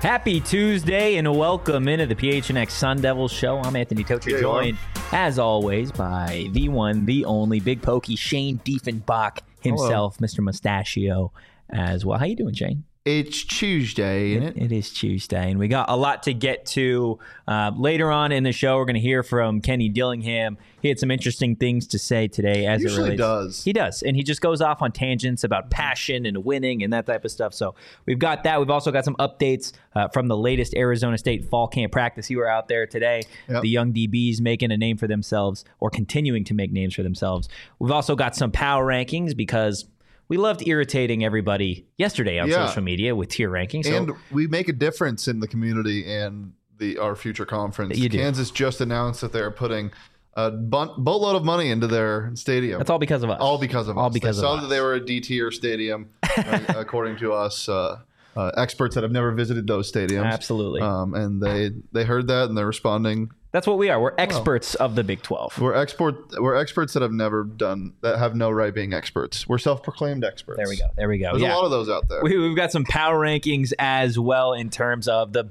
Happy Tuesday and welcome into the PHNX Sun Devils show. I'm Anthony Tocher, joined as always by the one, the only Big Pokey Shane Diefenbach himself, Hello. Mr. Mustachio as well. How you doing, Shane? It's Tuesday, isn't it? It is Tuesday, and we got a lot to get to. Later on in the show, we're going to hear from Kenny Dillingham. He had some interesting things to say today. As usually it relates. Does. He does, and he just goes off on tangents about passion and winning and that type of stuff. So we've got that. We've also got some updates from the latest Arizona State fall camp practice. You were out there today. Yep. The young DBs making a name for themselves or continuing to make names for themselves. We've also got some power rankings because we loved irritating everybody yesterday on social media with tier rankings. So, and we make a difference in the community and our future conference. Kansas just announced that they're putting a boatload of money into their stadium. That's all because of us. All because of us. They saw that they were a D-tier stadium, according to us. Experts that have never visited those stadiums. Absolutely. And they heard that and they're responding. That's what we are. We're experts of the Big 12. We're experts that have no right being experts. We're self-proclaimed experts. There we go. There's a lot of those out there. We've got some power rankings as well in terms of the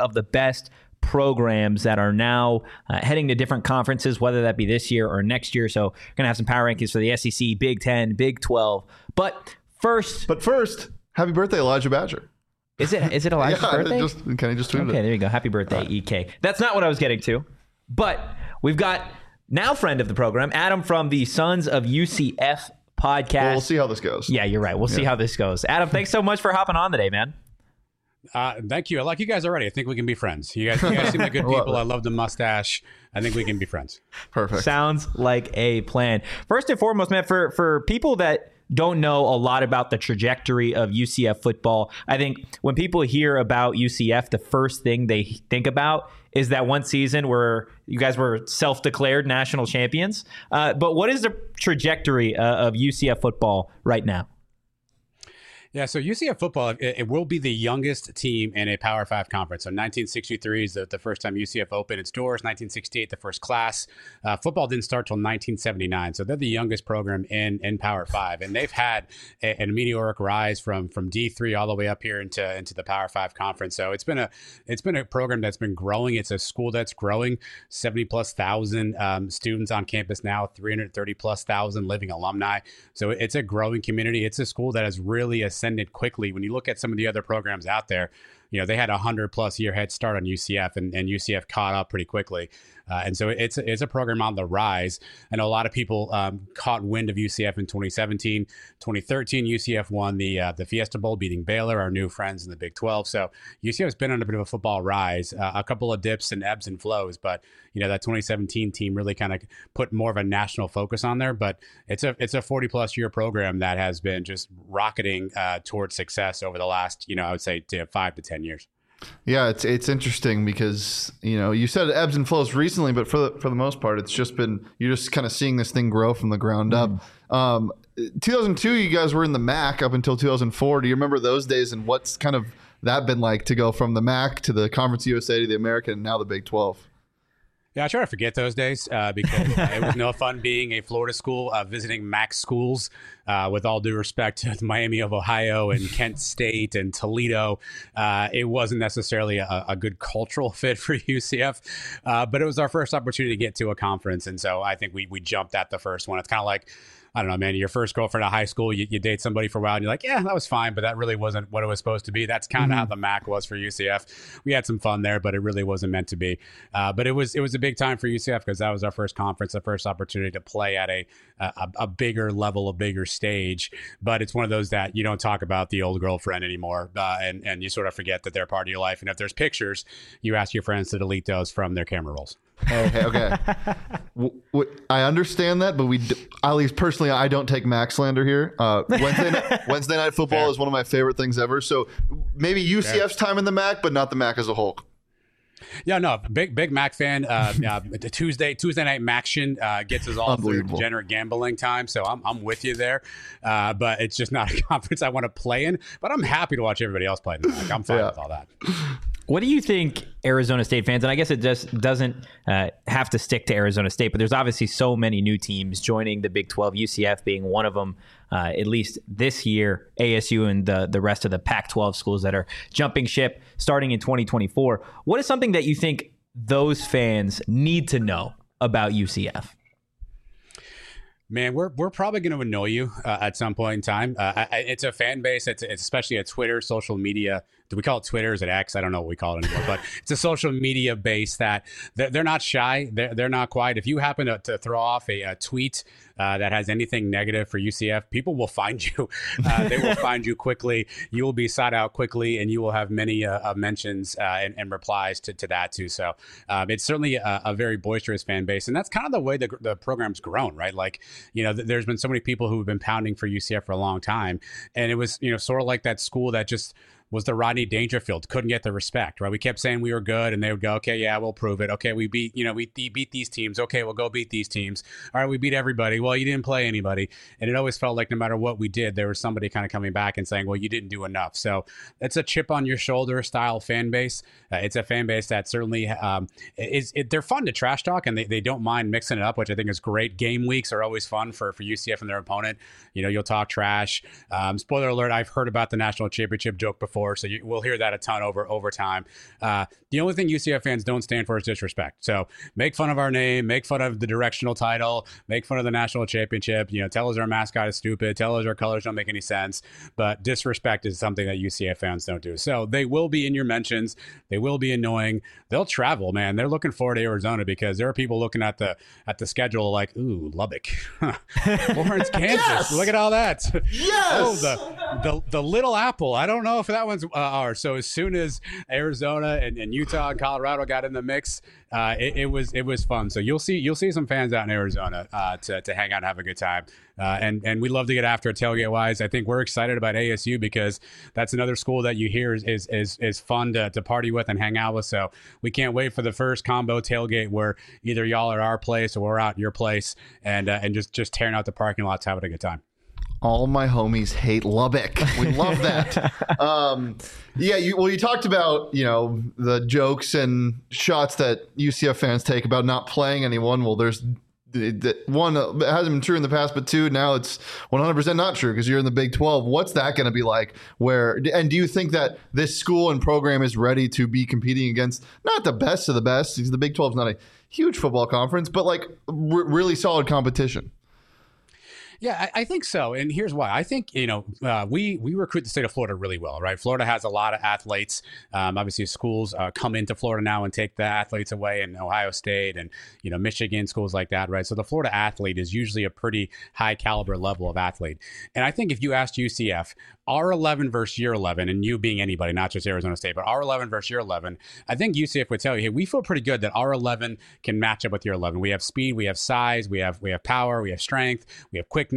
best programs that are now heading to different conferences, whether that be this year or next year. So we're going to have some power rankings for the SEC, Big 10, Big 12. But first, happy birthday, Elijah Badger. Is it Elijah's birthday? Kenny just tweeted it. Okay, there you go. Happy birthday, EK. That's not what I was getting to. But we've got now friend of the program, Adam from the Sons of UCF podcast. Well, we'll see how this goes. Yeah, you're right. We'll see how this goes. Adam, thanks so much for hopping on today, man. Thank you. I like you guys already. I think we can be friends. You guys seem like good people. I love the mustache. I think we can be friends. Perfect. Sounds like a plan. First and foremost, man, for people that don't know a lot about the trajectory of UCF football, I think when people hear about UCF, the first thing they think about is that one season where you guys were self-declared national champions. But what is the trajectory of UCF football right now? Yeah, so UCF football, it will be the youngest team in a Power 5 conference. So 1963 is the first time UCF opened its doors, 1968 the first class. Football didn't start till 1979, so they're the youngest program in Power 5. And they've had a meteoric rise from D3 all the way up here into the Power 5 conference. So it's been a program that's been growing. It's a school that's growing, 70+ thousand students on campus now, 330+ thousand living alumni. So it's a growing community. It's a school that has really ascended quickly. When you look at some of the other programs out there, they had a 100+ year head start on UCF, and UCF caught up pretty quickly. And so it's a program on the rise. I know a lot of people caught wind of UCF in 2017. 2013, UCF won the Fiesta Bowl, beating Baylor, our new friends in the Big 12. So UCF's been on a bit of a football rise, a couple of dips and ebbs and flows. But, that 2017 team really kind of put more of a national focus on there. But it's a 40+ year program that has been just rocketing towards success over the last, I would say 5 to 10 years. Yeah, it's interesting because you said it ebbs and flows recently, but for the most part, it's just been you're just kind of seeing this thing grow from the ground up. 2002, you guys were in the MAC up until 2004. Do you remember those days and what's kind of that been like to go from the MAC to the Conference USA to the American and now the Big 12? Yeah, I try to forget those days because it was no fun being a Florida school, visiting MAC schools, with all due respect to Miami of Ohio and Kent State and Toledo. It wasn't necessarily a good cultural fit for UCF, but it was our first opportunity to get to a conference. And so I think we jumped at the first one. It's kind of like, I don't know, man, your first girlfriend at high school, you date somebody for a while and you're like, yeah, that was fine, but that really wasn't what it was supposed to be. That's kind of how the MAC was for UCF. We had some fun there, but it really wasn't meant to be. But it was a big time for UCF because that was our first conference, the first opportunity to play at a bigger level, a bigger stage. But it's one of those that you don't talk about the old girlfriend anymore, and you sort of forget that they're part of your life. And if there's pictures, you ask your friends to delete those from their camera rolls. Okay. I understand that, but at least personally, I don't take MAC slander here. Wednesday night football is one of my favorite things ever. So maybe UCF's time in the MAC, but not the MAC as a whole. Yeah, no, big Mac fan. The Tuesday night Maction gets us all through degenerate gambling time, so I'm with you there. But it's just not a conference I want to play in. But I'm happy to watch everybody else play in the Mac. I'm fine with all that. What do you think Arizona State fans, and I guess it just doesn't have to stick to Arizona State, but there's obviously so many new teams joining the Big 12, UCF being one of them, at least this year, ASU and the rest of the Pac-12 schools that are jumping ship starting in 2024. What is something that you think those fans need to know about UCF? Man, we're probably going to annoy you at some point in time. It's a fan base. It's especially a Twitter, social media. Do we call it Twitter? Is it X? I don't know what we call it anymore. But it's a social media base that they're not shy. They're not quiet. If you happen to throw off a tweet that has anything negative for UCF, people will find you. They will find you quickly. You will be sought out quickly, and you will have many mentions and replies to that too. So it's certainly a very boisterous fan base, and that's kind of the way the program's grown, right? Like, there's been so many people who have been pounding for UCF for a long time, and it was sort of like that school that just was the Rodney Dangerfield, couldn't get the respect, right? We kept saying we were good, and they would go, okay, yeah, we'll prove it. Okay, we beat these teams. Okay, we'll go beat these teams. All right, we beat everybody. Well, you didn't play anybody. And it always felt like no matter what we did, there was somebody kind of coming back and saying, well, you didn't do enough. So it's a chip on your shoulder style fan base. It's a fan base that certainly they're fun to trash talk, and they don't mind mixing it up, which I think is great. Game weeks are always fun for UCF and their opponent. You'll talk trash. Spoiler alert, I've heard about the national championship joke before. So we'll hear that a ton over time. The only thing UCF fans don't stand for is disrespect. So make fun of our name, make fun of the directional title, make fun of the national championship. Tell us our mascot is stupid. Tell us our colors don't make any sense. But disrespect is something that UCF fans don't do. So they will be in your mentions. They will be annoying. They'll travel, man. They're looking forward to Arizona because there are people looking at the schedule like, ooh, Lubbock, Lawrence, Kansas. Yes! Look at all that. Yes. Oh, the Little Apple. I don't know if that one's ours. So as soon as Arizona and Utah and Colorado got in the mix, it was fun. So you'll see some fans out in Arizona to hang out and have a good time. And we love to get after it tailgate wise. I think we're excited about ASU because that's another school that you hear is fun to party with and hang out with. So we can't wait for the first combo tailgate where either y'all are at our place or we're out at your place and just tearing out the parking lots, having a good time. All my homies hate Lubbock. We love that. You talked about, the jokes and shots that UCF fans take about not playing anyone. Well, there's one, it hasn't been true in the past, but two, now it's 100% not true because you're in the Big 12. What's that going to be like? And do you think that this school and program is ready to be competing against not the best of the best, because the Big 12 is not a huge football conference, but like really solid competition? Yeah, I think so. And here's why. I think, we recruit the state of Florida really well, right? Florida has a lot of athletes. Obviously, schools come into Florida now and take the athletes away, and Ohio State and, Michigan, schools like that, right? So the Florida athlete is usually a pretty high caliber level of athlete. And I think if you asked UCF, R11 versus year 11, and you being anybody, not just Arizona State, but R11 versus year 11, I think UCF would tell you, hey, we feel pretty good that R11 can match up with year 11. We have speed, we have size, we have power, we have strength, we have quickness.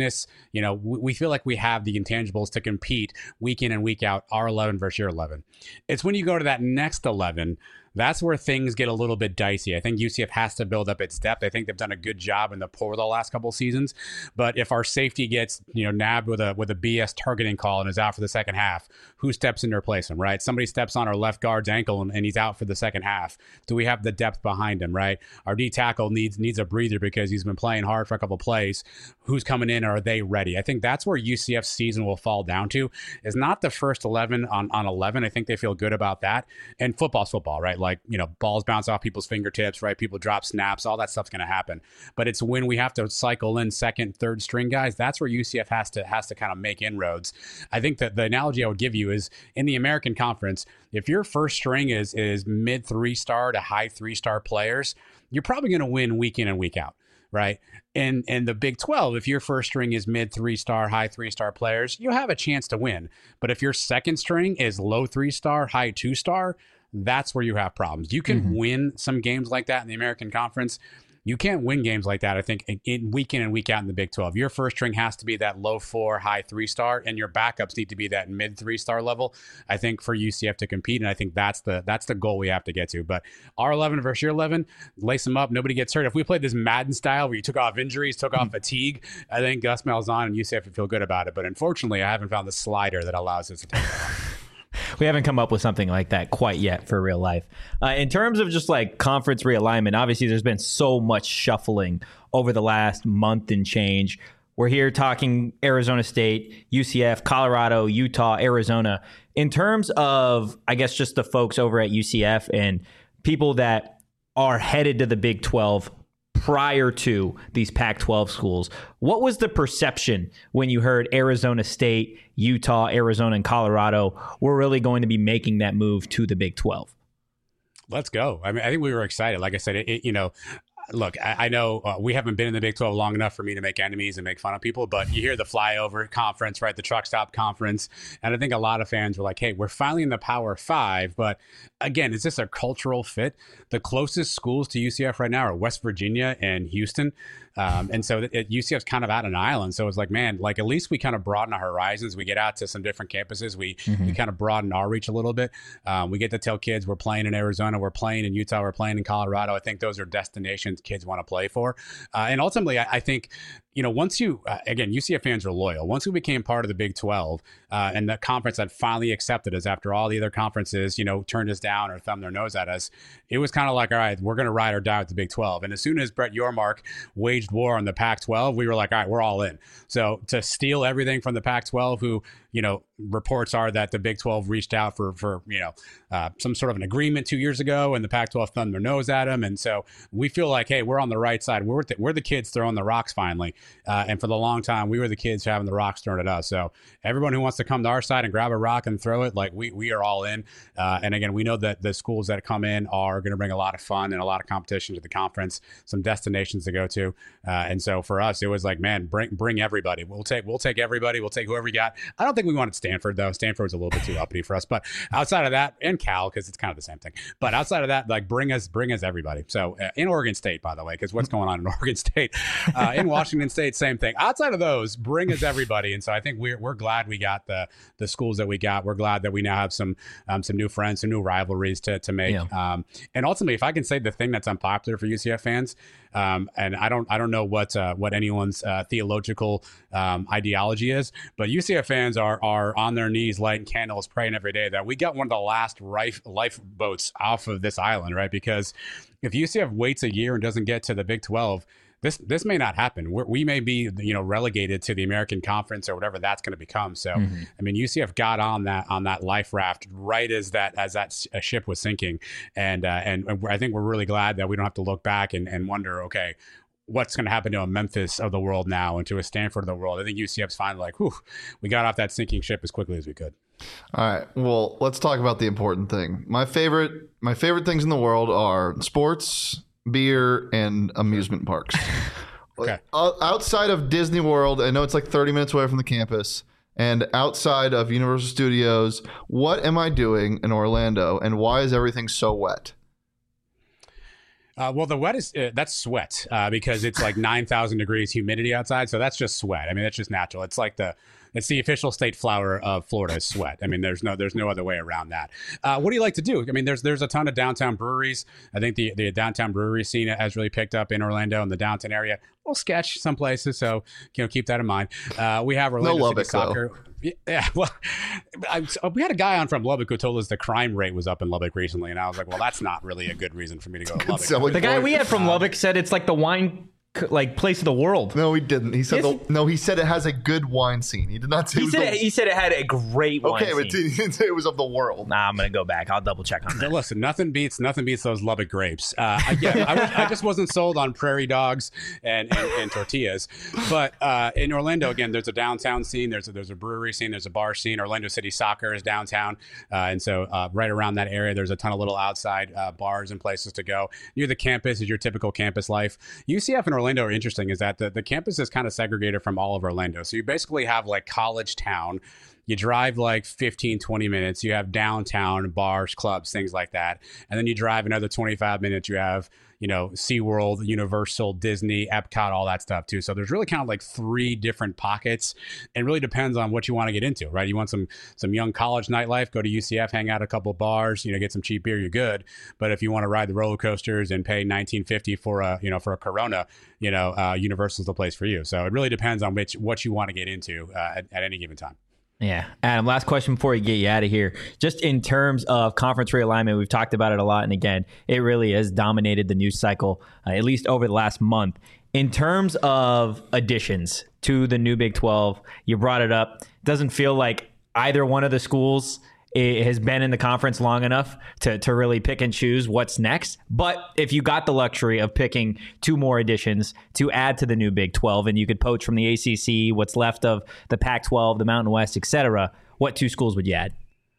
We feel like we have the intangibles to compete week in and week out, R11 versus year 11. It's when you go to that next 11, that's where things get a little bit dicey. I think UCF has to build up its depth. I think they've done a good job in the portal the last couple of seasons. But if our safety gets nabbed with a BS targeting call and is out for the second half, who steps in to replace him, right? Somebody steps on our left guard's ankle and he's out for the second half. Do we have the depth behind him, right? Our D tackle needs a breather because he's been playing hard for a couple of plays. Who's coming in? Are they ready? I think that's where UCF's season will fall down to, is not the first 11 on 11. I think they feel good about that. And football's football, right? Like, balls bounce off people's fingertips, right? People drop snaps, all that stuff's going to happen. But it's when we have to cycle in second, third string guys, that's where UCF has to kind of make inroads. I think that the analogy I would give you is in the American Conference, if your first string is mid 3-star to high 3-star players, you're probably going to win week in and week out. Right. And the Big 12, if your first string is mid 3-star, high 3-star players, you have a chance to win. But if your second string is low 3-star, high 2-star, that's where you have problems. You can win some games like that in the American Conference. You can't win games like that, I think, in week in and week out in the Big 12. Your first string has to be that low 4, high 3-star, and your backups need to be that mid 3-star level, I think, for UCF to compete. And I think that's the goal we have to get to. But R11 versus year 11, lace them up. Nobody gets hurt. If we played this Madden style where you took off injuries, took off fatigue, I think Gus Malzahn and UCF would feel good about it. But unfortunately, I haven't found the slider that allows us to take that off. we haven't come up with something like that quite yet for real life. In terms of just like conference realignment, obviously there's been so much shuffling over the last month and change. We're here talking Arizona State, UCF, Colorado, Utah, Arizona. In terms of, I guess, just the folks over at UCF and people that are headed to the Big 12 prior to these Pac-12 schools, what was the perception when you heard Arizona State, Utah, Arizona, and Colorado were really going to be making that move to the Big 12? Let's go. I mean, I think we were excited. Like I said, look, I know we haven't been in the Big 12 long enough for me to make enemies and make fun of people, but you hear the flyover conference, right? The truck stop conference. And I think a lot of fans were like, hey, we're finally in the Power Five. But again, is this a cultural fit? The closest schools to UCF right now are West Virginia and Houston. And so UCF's kind of out an island. So it's like, man, like at least we kind of broaden our horizons. We get out to some different campuses. We kind of broaden our reach a little bit. We get to tell kids we're playing in Arizona, we're playing in Utah, we're playing in Colorado. I think those are destinations kids want to play for. And ultimately, I think, once again, UCF fans are loyal. Once we became part of the Big 12 and the conference that finally accepted us after all the other conferences, turned us down or thumbed their nose at us, it was kind of like, all right, we're going to ride or die with the Big 12. And as soon as Brett Yormark waged war on the Pac-12, we were like, all right, we're all in. So to steal everything from the Pac-12, who, reports are that the Big 12 reached out for some sort of an agreement 2 years ago, and the Pac-12 thumbed their nose at them. And so we feel like, hey, we're on the right side. We're the kids throwing the rocks finally. And for the long time, we were the kids having the rocks thrown at us. So everyone who wants to come to our side and grab a rock and throw it, like we are all in. And again, we know that the schools that come in are going to bring a lot of fun and a lot of competition to the conference, some destinations to go to. And so for us, it was like, man, bring everybody. We'll take everybody. We'll take whoever you got. I don't think we wanted Stanford, though. Stanford was a little bit too uppity for us. But outside of that, and Cal, because it's kind of the same thing. But outside of that, like bring us everybody. So in Oregon State, by the way, because what's going on in Oregon State, in Washington State, same thing. Outside of those, bring us everybody. And so I think we're glad we got the schools that we got. We're glad that we now have some new friends, some new rivalries to make. Yeah. And ultimately, if I can say the thing that's unpopular for UCF fans, and I don't know what anyone's theological ideology is, but UCF fans are on their knees lighting candles, praying every day that we got one of the last lifeboats off of this island, right? Because if UCF waits a year and doesn't get to the Big 12, this may not happen. We may be, relegated to the American Conference or whatever that's going to become. So, I mean, UCF got on that life raft right as that ship was sinking, and I think we're really glad that we don't have to look back and wonder, okay, what's going to happen to a Memphis of the world now and to a Stanford of the world. I think UCF's finally like, whew, we got off that sinking ship as quickly as we could. All right. Well, let's talk about the important thing. My favorite things in the world are sports, beer, and amusement parks. Okay. Outside of Disney World, I know it's like 30 minutes away from the campus, and outside of Universal Studios, what am I doing in Orlando, and why is everything so wet? Well, the wet is that's sweat because it's like 9,000 degrees humidity outside. So that's just sweat. I mean, that's just natural. It's like it's the official state flower of Florida is sweat. I mean, there's no other way around that. What do you like to do? I mean, there's a ton of downtown breweries. I think the downtown brewery scene has really picked up in Orlando and the downtown area. A little sketch some places, so keep that in mind. We have Orlando City Soccer. Yeah, well, we had a guy on from Lubbock who told us the crime rate was up in Lubbock recently, and I was like, well, that's not really a good reason for me to go to Lubbock. The guy we had from Lubbock said it's like the wine place of the world. No, he didn't. He said he said it has a good wine scene. He did not say he said it had a great wine scene. Okay, but he didn't say it was of the world. Nah, I'm gonna go back. I'll double check on that. Listen, nothing beats those Lubbock grapes. I just wasn't sold on prairie dogs and tortillas. But in Orlando, again, there's a downtown scene. There's a brewery scene. There's a bar scene. Orlando City Soccer is downtown, and so right around that area, there's a ton of little outside bars and places to go. Near the campus is your typical campus life. UCF and Orlando are interesting is that the campus is kind of segregated from all of Orlando. So you basically have like college town. You drive like 15, 20 minutes. You have downtown, bars, clubs, things like that. And then you drive another 25 minutes. You have, SeaWorld, Universal, Disney, Epcot, all that stuff too. So there's really kind of like 3 different pockets. It really depends on what you want to get into, right? You want some young college nightlife, go to UCF, hang out at a couple of bars, get some cheap beer, you're good. But if you want to ride the roller coasters and pay $19.50 for a Corona, Universal's the place for you. So it really depends on what you want to get into at any given time. Yeah. Adam, last question before we get you out of here. Just in terms of conference realignment, we've talked about it a lot. And again, it really has dominated the news cycle, at least over the last month. In terms of additions to the new Big 12, you brought it up. Doesn't feel like either one of the schools has been in the conference long enough to really pick and choose what's next. But if you got the luxury of picking 2 more additions to add to the new Big 12, and you could poach from the ACC, what's left of the Pac-12, the Mountain West, etc., what 2 schools would you add?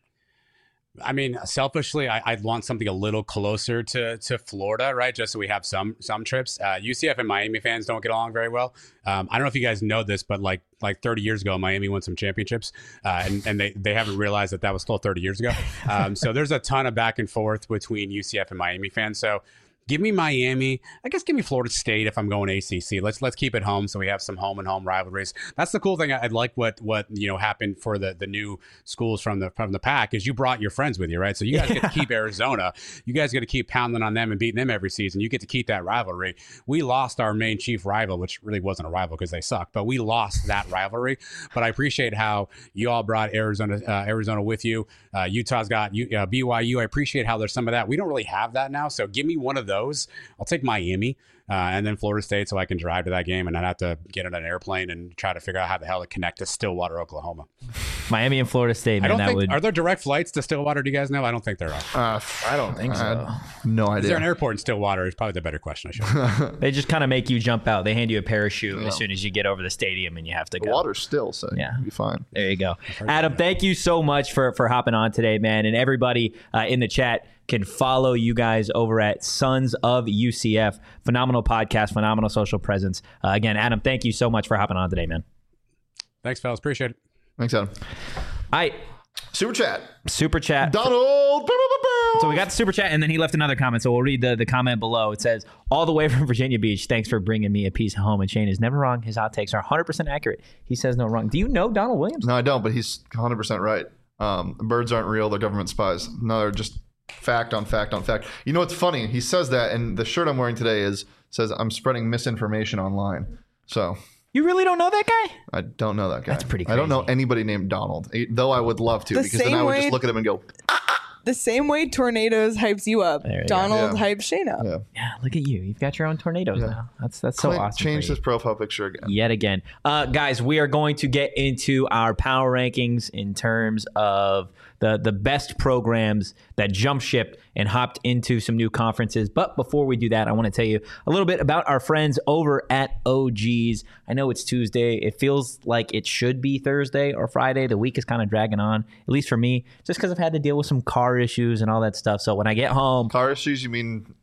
I mean, selfishly, I'd want something a little closer to Florida, right? Just so we have some trips. UCF and Miami fans don't get along very well. I don't know if you guys know this, but like 30 years ago, Miami won some championships, and they haven't realized that was still 30 years ago. So there's a ton of back and forth between UCF and Miami fans. So give me Miami. I guess give me Florida State if I'm going ACC. Let's keep it home so we have some home and home rivalries. That's the cool thing. I'd like what happened for the new schools from the Pac is you brought your friends with you, right? So you guys get to keep Arizona. You guys get to keep pounding on them and beating them every season. You get to keep that rivalry. We lost our main chief rival, which really wasn't a rival because they suck, but we lost that rivalry. But I appreciate how you all brought Arizona with you. Utah's got BYU. I appreciate how there's some of that. We don't really have that now. So give me one of those. I'll take Miami and then Florida State so I can drive to that game and not have to get on an airplane and try to figure out how the hell to connect to Stillwater, Oklahoma. Miami and Florida State, man. Are there direct flights to Stillwater? Do you guys know? I don't think there are. I don't think so. No idea. Is there an airport in Stillwater? Is probably the better question. I should. They just kind of make you jump out. They hand you a parachute as soon as you get over the stadium and you have to go. The water's still, so you'll be fine. There you go. Adam, thank you so much for hopping on today, man. And everybody in the chat can follow you guys over at Sons of UCF. Phenomenal podcast, phenomenal social presence. Again, Adam, thank you so much for hopping on today, man. Thanks, fellas. Appreciate it. Thanks, Adam. All right. Super chat. Donald. So we got the super chat, and then he left another comment. So we'll read the comment below. It says, all the way from Virginia Beach, thanks for bringing me a piece of home. And Shane is never wrong. His hot takes are 100% accurate. He says no wrong. Do you know Donald Williams? No, I don't, but he's 100% right. Birds aren't real. They're government spies. No, they're just fact on fact on fact. You know what's funny? He says that, and the shirt I'm wearing today says I'm spreading misinformation online. So you really don't know that guy? I don't know that guy. That's pretty crazy. I don't know anybody named Donald, though I would love to, because then I would just look at him and go. The same way Tornadoes hypes you up, Donald hypes Shane up. Yeah, look at you. You've got your own Tornadoes now. That's so awesome. Change this profile picture again. Yet again. Guys, we are going to get into our power rankings in terms of the best programs that jump ship and hopped into some new conferences. But before we do that, I want to tell you a little bit about our friends over at OGs. I know it's Tuesday. It feels like it should be Thursday or Friday. The week is kind of dragging on, at least for me, just because I've had to deal with some car issues and all that stuff. So when I get home... Car issues? You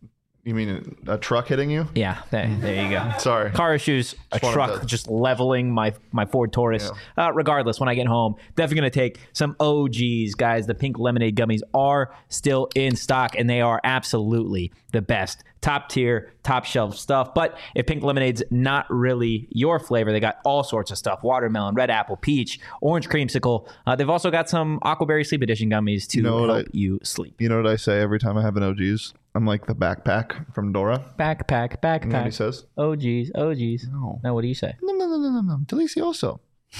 mean a truck hitting you? Yeah, there you go. Sorry. Car issues, a truck just leveling my Ford Taurus. Yeah. Regardless, when I get home, definitely going to take some OGs. Guys, the pink lemonade gummies are still in stock, and they are absolutely the best. Top tier, top shelf stuff. But if pink lemonade's not really your flavor, they got all sorts of stuff. Watermelon, red apple, peach, orange creamsicle. They've also got some Aquaberry Sleep Edition gummies to help you sleep. You know what I say every time I have an OGs? I'm like the backpack from Dora. Backpack. You know what he says? OGs. No, what do you say? No. Delicioso.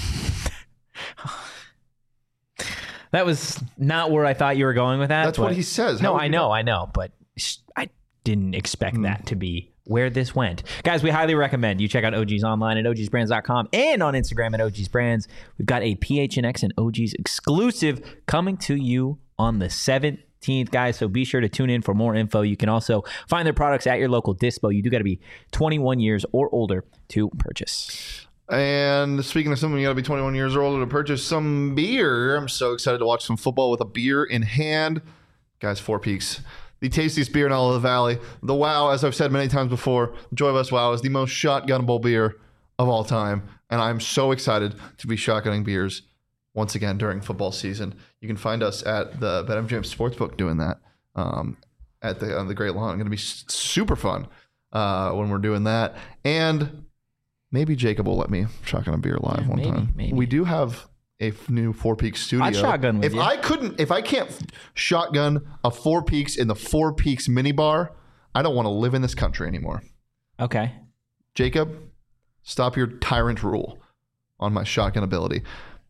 That was not where I thought you were going with that. That's what he says. No, I know, but I didn't expect that to be where this went. Guys, we highly recommend you check out OGs online at ogsbrands.com and on Instagram at ogsbrands. We've got a PHNX and OGs exclusive coming to you on the 7th. Guys, so be sure to tune in for more info. You can also find their products at your local dispo. You do got to be 21 years or older to purchase. And speaking of something, you got to be 21 years or older to purchase some beer. I'm so excited to watch some football with a beer in hand. Guys, Four Peaks, the tastiest beer in all of the valley. The Wow, as I've said many times before, Joy West Wow is the most shotgunnable beer of all time. And I'm so excited to be shotgunning beers once again during football season. You can find us at the BetMGM Sportsbook doing that on the Great Lawn. It's going to be super fun when we're doing that. And maybe Jacob will let me shotgun a beer live one time. Maybe. We do have a new Four Peaks studio. I'd shotgun with you. If I can't shotgun a Four Peaks in the Four Peaks minibar, I don't want to live in this country anymore. Okay. Jacob, stop your tyrant rule on my shotgun ability.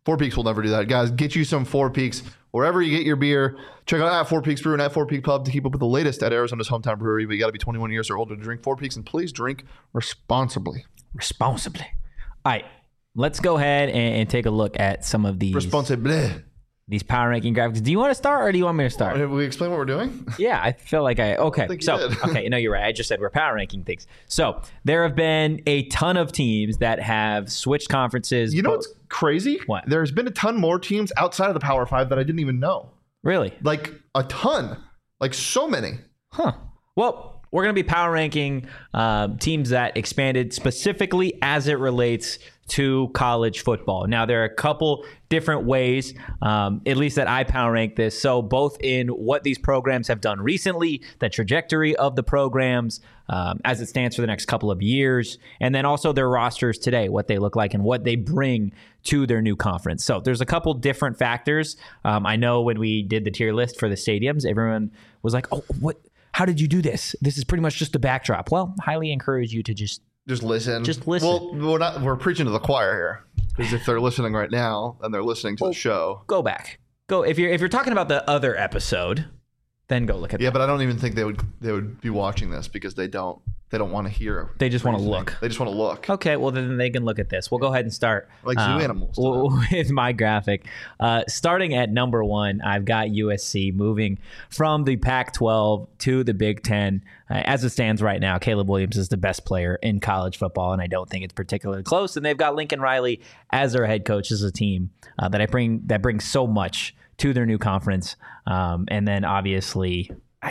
Four Peaks will never do that. Guys, get you some Four Peaks wherever you get your beer. Check out at Four Peaks Brew and at Four Peak Pub to keep up with the latest at Arizona's hometown brewery. But you got to be 21 years or older to drink Four Peaks, and please drink responsibly. Responsibly. All right, let's go ahead and take a look at some of these. Responsibly. These power ranking graphics. Do you want to start or do you want me to start? Have we explain what we're doing? Yeah, I feel like okay. Okay, no, you're right. I just said we're power ranking things. So there have been a ton of teams that have switched conferences. You know what's crazy? What? There's been a ton more teams outside of the Power 5 that I didn't even know. Really? Like a ton. Like so many. Huh. Well, we're going to be power ranking teams that expanded specifically as it relates to college football. Now, there are a couple different ways, at least that I power rank this. So both in what these programs have done recently, the trajectory of the programs as it stands for the next couple of years, and then also their rosters today, what they look like and what they bring to their new conference. So there's a couple different factors. I know when we did the tier list for the stadiums, everyone was like, oh, what? How did you do this? This is pretty much just a backdrop. Well, highly encourage you to just listen. Just listen. Well, we're preaching to the choir here, because if they're listening right now and they're listening to the show, go back. Go if you're talking about the other episode, then go look at that. Yeah, but I don't even think they would be watching this because they don't want to hear. They just want to look. They just want to look. Okay, well then they can look at this. We'll go ahead and start like zoo animals with my graphic. Starting at number 1, I've got USC moving from the Pac-12 to the Big Ten. As it stands right now, Caleb Williams is the best player in college football, and I don't think it's particularly close. And they've got Lincoln Riley as their head coach. This is a team that brings so much to their new conference, and then obviously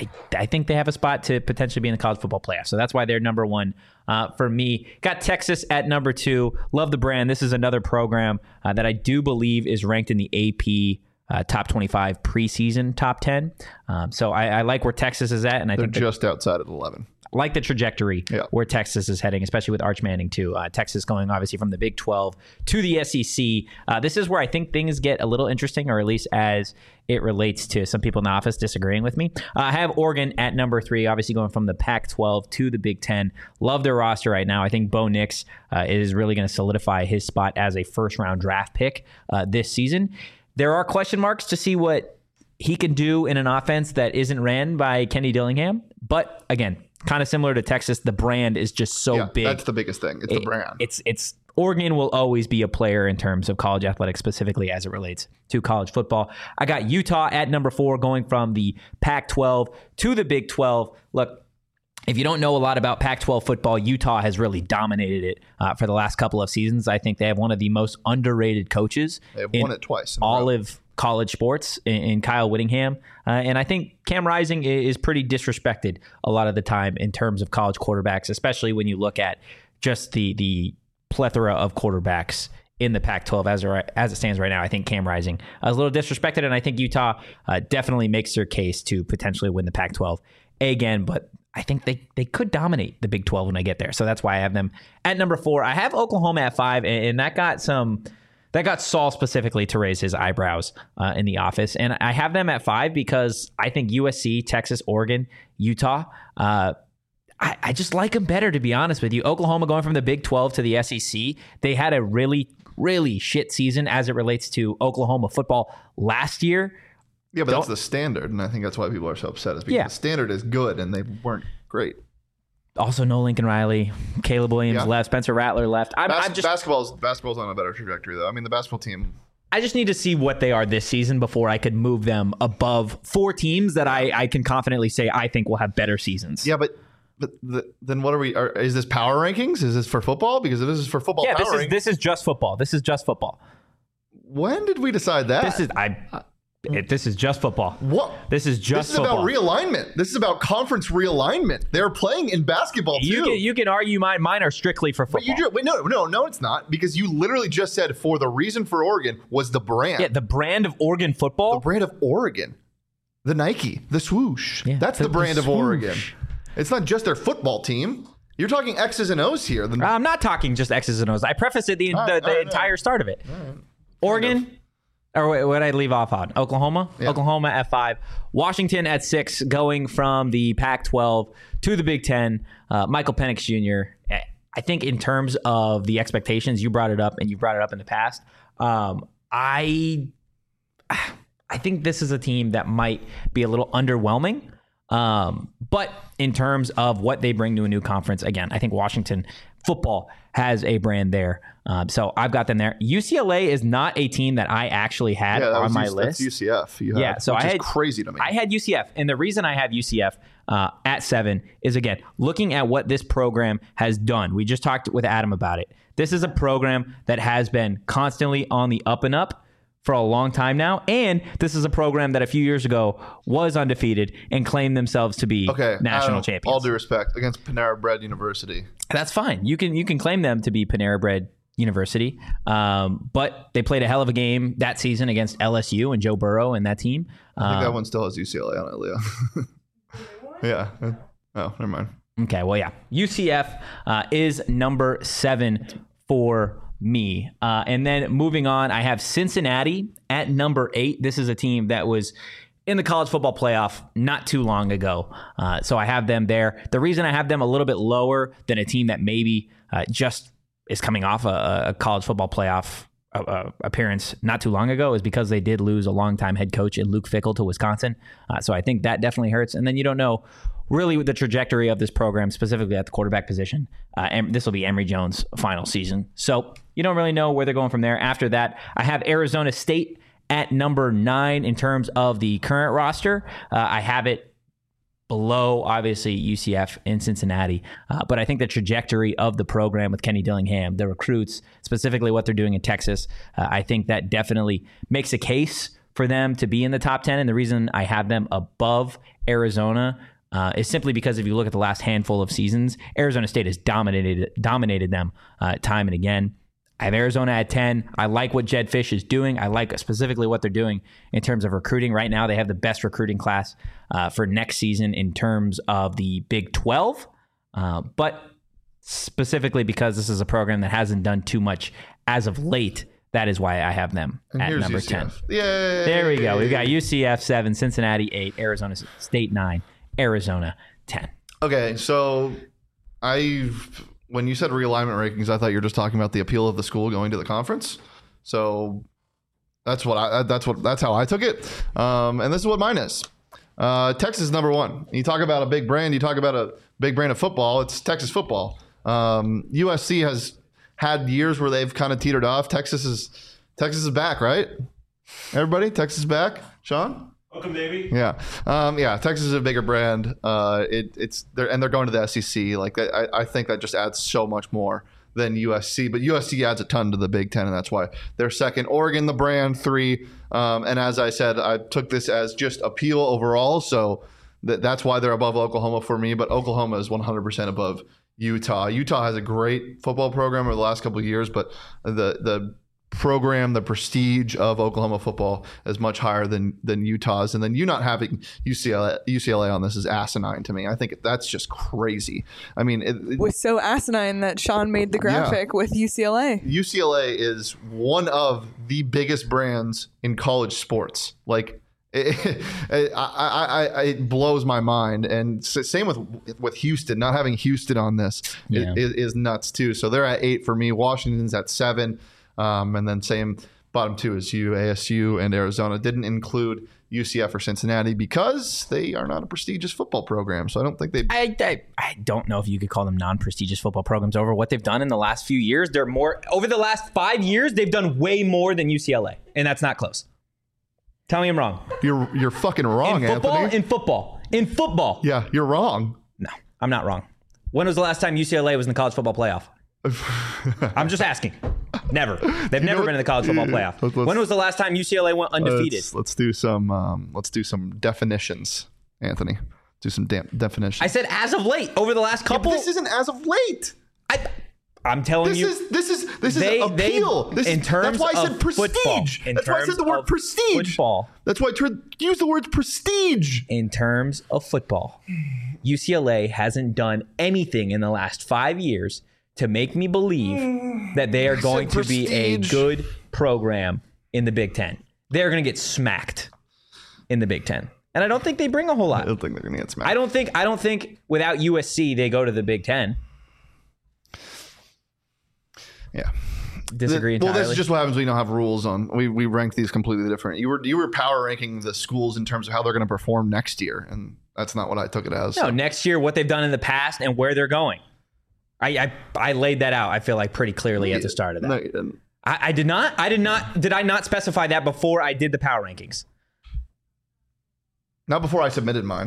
I think they have a spot to potentially be in the college football playoff. So that's why they're number 1 for me. Got Texas at number 2. Love the brand. This is another program that I do believe is ranked in the AP top 25 preseason top 10. So I like where Texas is at, and I think they're just outside of 11. Like the trajectory where Texas is heading, especially with Arch Manning too. Texas going obviously from the Big 12 to the SEC. This is where I think things get a little interesting, or at least as it relates to some people in the office disagreeing with me. I have Oregon at number 3, obviously going from the Pac-12 to the Big 10. Love their roster right now. I think Bo Nix is really going to solidify his spot as a first-round draft pick this season. There are question marks to see what he can do in an offense that isn't ran by Kenny Dillingham. But again, kind of similar to Texas, the brand is just so big. That's the biggest thing. It's the brand. It's Oregon will always be a player in terms of college athletics, specifically as it relates to college football. I got Utah at number 4, going from the Pac-12 to the Big 12. Look, if you don't know a lot about Pac-12 football, Utah has really dominated it for the last couple of seasons. I think they have one of the most underrated coaches. They have won it twice. All of college sports in Kyle Whittingham. And I think Cam Rising is pretty disrespected a lot of the time in terms of college quarterbacks, especially when you look at just the plethora of quarterbacks in the Pac-12 as it stands right now. I think Cam Rising is a little disrespected, and I think Utah definitely makes their case to potentially win the Pac-12 again, but I think they could dominate the Big 12 when I get there. So that's why I have them at number 4. I have Oklahoma at 5, and that got Saul specifically to raise his eyebrows in the office. And I have them at 5 because I think USC, Texas, Oregon, Utah, I just like them better, to be honest with you. Oklahoma going from the Big 12 to the SEC, they had a really, really shit season as it relates to Oklahoma football last year. Yeah, but that's the standard, and I think that's why people are so upset. Is because the standard is good, and they weren't great. Also, no Lincoln Riley, Caleb Williams left, Spencer Rattler left. Basketball's on a better trajectory, though. I mean, the basketball team. I just need to see what they are this season before I could move them above 4 teams that I can confidently say I think will have better seasons. Yeah, but then what are we? Is this power rankings? Is this for football? Because if this is for football, this is just football. This is just football. When did we decide that? This is just football. What? This is football. About realignment. This is about conference realignment. They're playing in basketball too. You can argue mine are strictly for football. No, it's not, because you literally just said for the reason for Oregon was the brand. Yeah, the brand of Oregon football. The brand of Oregon. The Nike, the swoosh. Yeah, that's the brand of Oregon. It's not just their football team. You're talking X's and O's here. I'm not talking just X's and O's. I prefaced it the entire start of it. Right. Oregon. Or what did I leave off on? Oklahoma? Yeah. Oklahoma at 5. Washington at 6, going from the Pac-12 to the Big 10. Michael Penix Jr., I think in terms of the expectations, you brought it up, and you brought it up in the past. I think this is a team that might be a little underwhelming. But in terms of what they bring to a new conference, again, I think Washington football has a brand there. So I've got them there. UCLA is not a team that I actually had on my list. That's UCF. So which is crazy to me. I had UCF. And the reason I have UCF at 7 is, again, looking at what this program has done. We just talked with Adam about it. This is a program that has been constantly on the up and up for a long time now, and this is a program that a few years ago was undefeated and claimed themselves to be national champions. All due respect, against Panera Bread University. That's fine. You can claim them to be Panera Bread University, but they played a hell of a game that season against LSU and Joe Burrow and that team. I think that one still has UCLA on it, Leo. Yeah. Oh, never mind. Okay, well, yeah. UCF is number 7 for me. And then moving on, I have Cincinnati at number 8. This is a team that was in the college football playoff not too long ago. So I have them there. The reason I have them a little bit lower than a team that maybe just is coming off a college football playoff appearance not too long ago is because they did lose a longtime head coach in Luke Fickell to Wisconsin. So I think that definitely hurts. And then you don't know really the trajectory of this program, specifically at the quarterback position. And this will be Emory Jones' final season. So you don't really know where they're going from there. After that, I have Arizona State at number 9 in terms of the current roster. I have it below, obviously, UCF and Cincinnati. But I think the trajectory of the program with Kenny Dillingham, the recruits, specifically what they're doing in Texas, I think that definitely makes a case for them to be in the top 10. And the reason I have them above Arizona is simply because if you look at the last handful of seasons, Arizona State has dominated them time and again. I have Arizona at 10. I like what Jedd Fisch is doing. I like specifically what they're doing in terms of recruiting. Right now, they have the best recruiting class for next season in terms of the Big 12. But specifically because this is a program that hasn't done too much as of late, that is why I have them at number UCF. 10. Yay! There we go. We've got UCF 7, Cincinnati 8, Arizona State 9, Arizona 10. Okay, so when you said realignment rankings, I thought you were just talking about the appeal of the school going to the conference. So that's how I took it. And this is what mine is. Texas is number 1. You talk about a big brand. You talk about a big brand of football. It's Texas football. USC has had years where they've kind of teetered off. Texas is back, right? Everybody, Texas is back. Sean? Welcome, baby. Yeah. Texas is a bigger brand. They're going to the SEC. Like I think that just adds so much more than USC, but USC adds a ton to the Big Ten, and that's why they're second. Oregon, the brand, 3. And as I said, I took this as just appeal overall. So that's why they're above Oklahoma for me, but Oklahoma is 100% above Utah. Utah has a great football program over the last couple of years, but the program, the prestige of Oklahoma football is much higher than Utah's. And then you not having UCLA on this is asinine to me. I think that's just crazy. I mean, it was so asinine that Sean made the graphic with UCLA. UCLA is one of the biggest brands in college sports. Like it blows my mind. And same with Houston. Not having Houston on this is nuts too. So they're at 8 for me. Washington's at 7. And then same bottom 2 is ASU and Arizona. Didn't include UCF or Cincinnati because they are not a prestigious football program. So I don't think they. I don't know if you could call them non-prestigious football programs over what they've done in the last few years. They're more over the last 5 years. They've done way more than UCLA, and that's not close. Tell me I'm wrong. You're fucking wrong, Anthony. In football. Yeah, you're wrong. No, I'm not wrong. When was the last time UCLA was in the college football playoff? I'm just asking. Never. They've never been in the college football playoff. When was the last time UCLA went undefeated? Let's do some definitions, Anthony. Do some definitions. I said as of late, over the last couple. This isn't as of late. I'm telling you. This is appeal. That's why I said prestige. That's why I said the word prestige. Football. That's why I use the word prestige. In terms of football, UCLA hasn't done anything in the last 5 years to make me believe that they are going to be a good program in the Big Ten. They're going to get smacked in the Big Ten. And I don't think they bring a whole lot. I don't think they're going to get smacked. I don't think without USC, they go to the Big Ten. Yeah. disagree entirely? Well, this is just what happens when you don't have rules on. We rank these completely different. You were power ranking the schools in terms of how they're going to perform next year, and that's not what I took it as. No, next year, what they've done in the past and where they're going. I laid that out, I feel like, pretty clearly at the start of that. No, you didn't. I did not. Did I not specify that before I did the power rankings? Not before I submitted mine.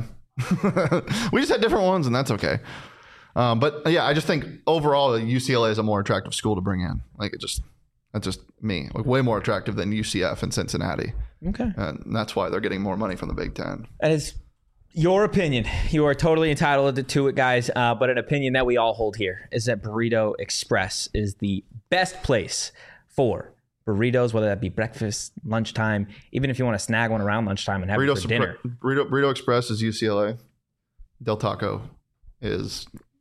We just had different ones, and that's okay. But yeah, I just think overall UCLA is a more attractive school to bring in. Like that's just me. Like way more attractive than UCF and Cincinnati. Okay. And that's why they're getting more money from the Big Ten. That is your opinion. You are totally entitled to it, guys. But an opinion that we all hold here is that Burrito Express is the best place for burritos, whether that be breakfast, lunchtime, even if you want to snag one around lunchtime and have it for dinner. Burrito Express is UCLA. Del Taco is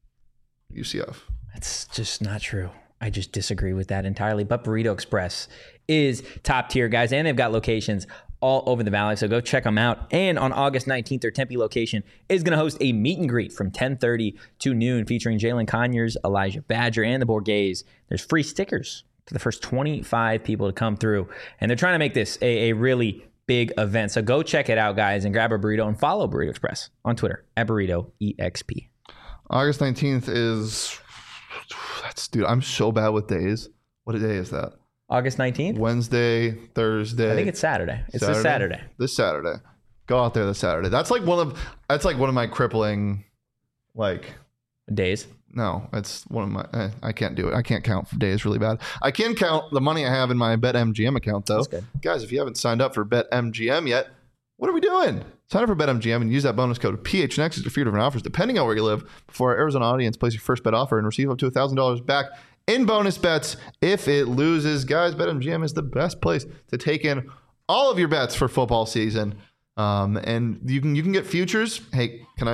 UCF. That's just not true. I just disagree with that entirely. But Burrito Express is top tier, guys, and they've got locations all over the valley, so go check them out. And on August 19th, their Tempe location is going to host a meet and greet from 10:30 to noon featuring Jalen Conyers, Elijah Badger, and the Borghese. There's free stickers for the first 25 people to come through, and they're trying to make this a really big event. So go check it out, guys, and grab a burrito and follow Burrito Express on Twitter at BurritoEXP. August 19th is... Dude, I'm so bad with days. What day is that? August 19th? Wednesday, Thursday. I think it's Saturday. It's this Saturday. This Saturday. Go out there this Saturday. That's like one of my crippling, like... days? No, it's one of my... I can't do it. I can't count for days really bad. I can count the money I have in my BetMGM account, though. That's good. Guys, if you haven't signed up for BetMGM yet, what are we doing? Sign up for BetMGM and use that bonus code PHNX to a few different offers, depending on where you live, before our Arizona audience place your first bet offer and receive up to $1,000 back in bonus bets if it loses. Guys, BetMGM is the best place to take in all of your bets for football season. And you can get futures. Hey, can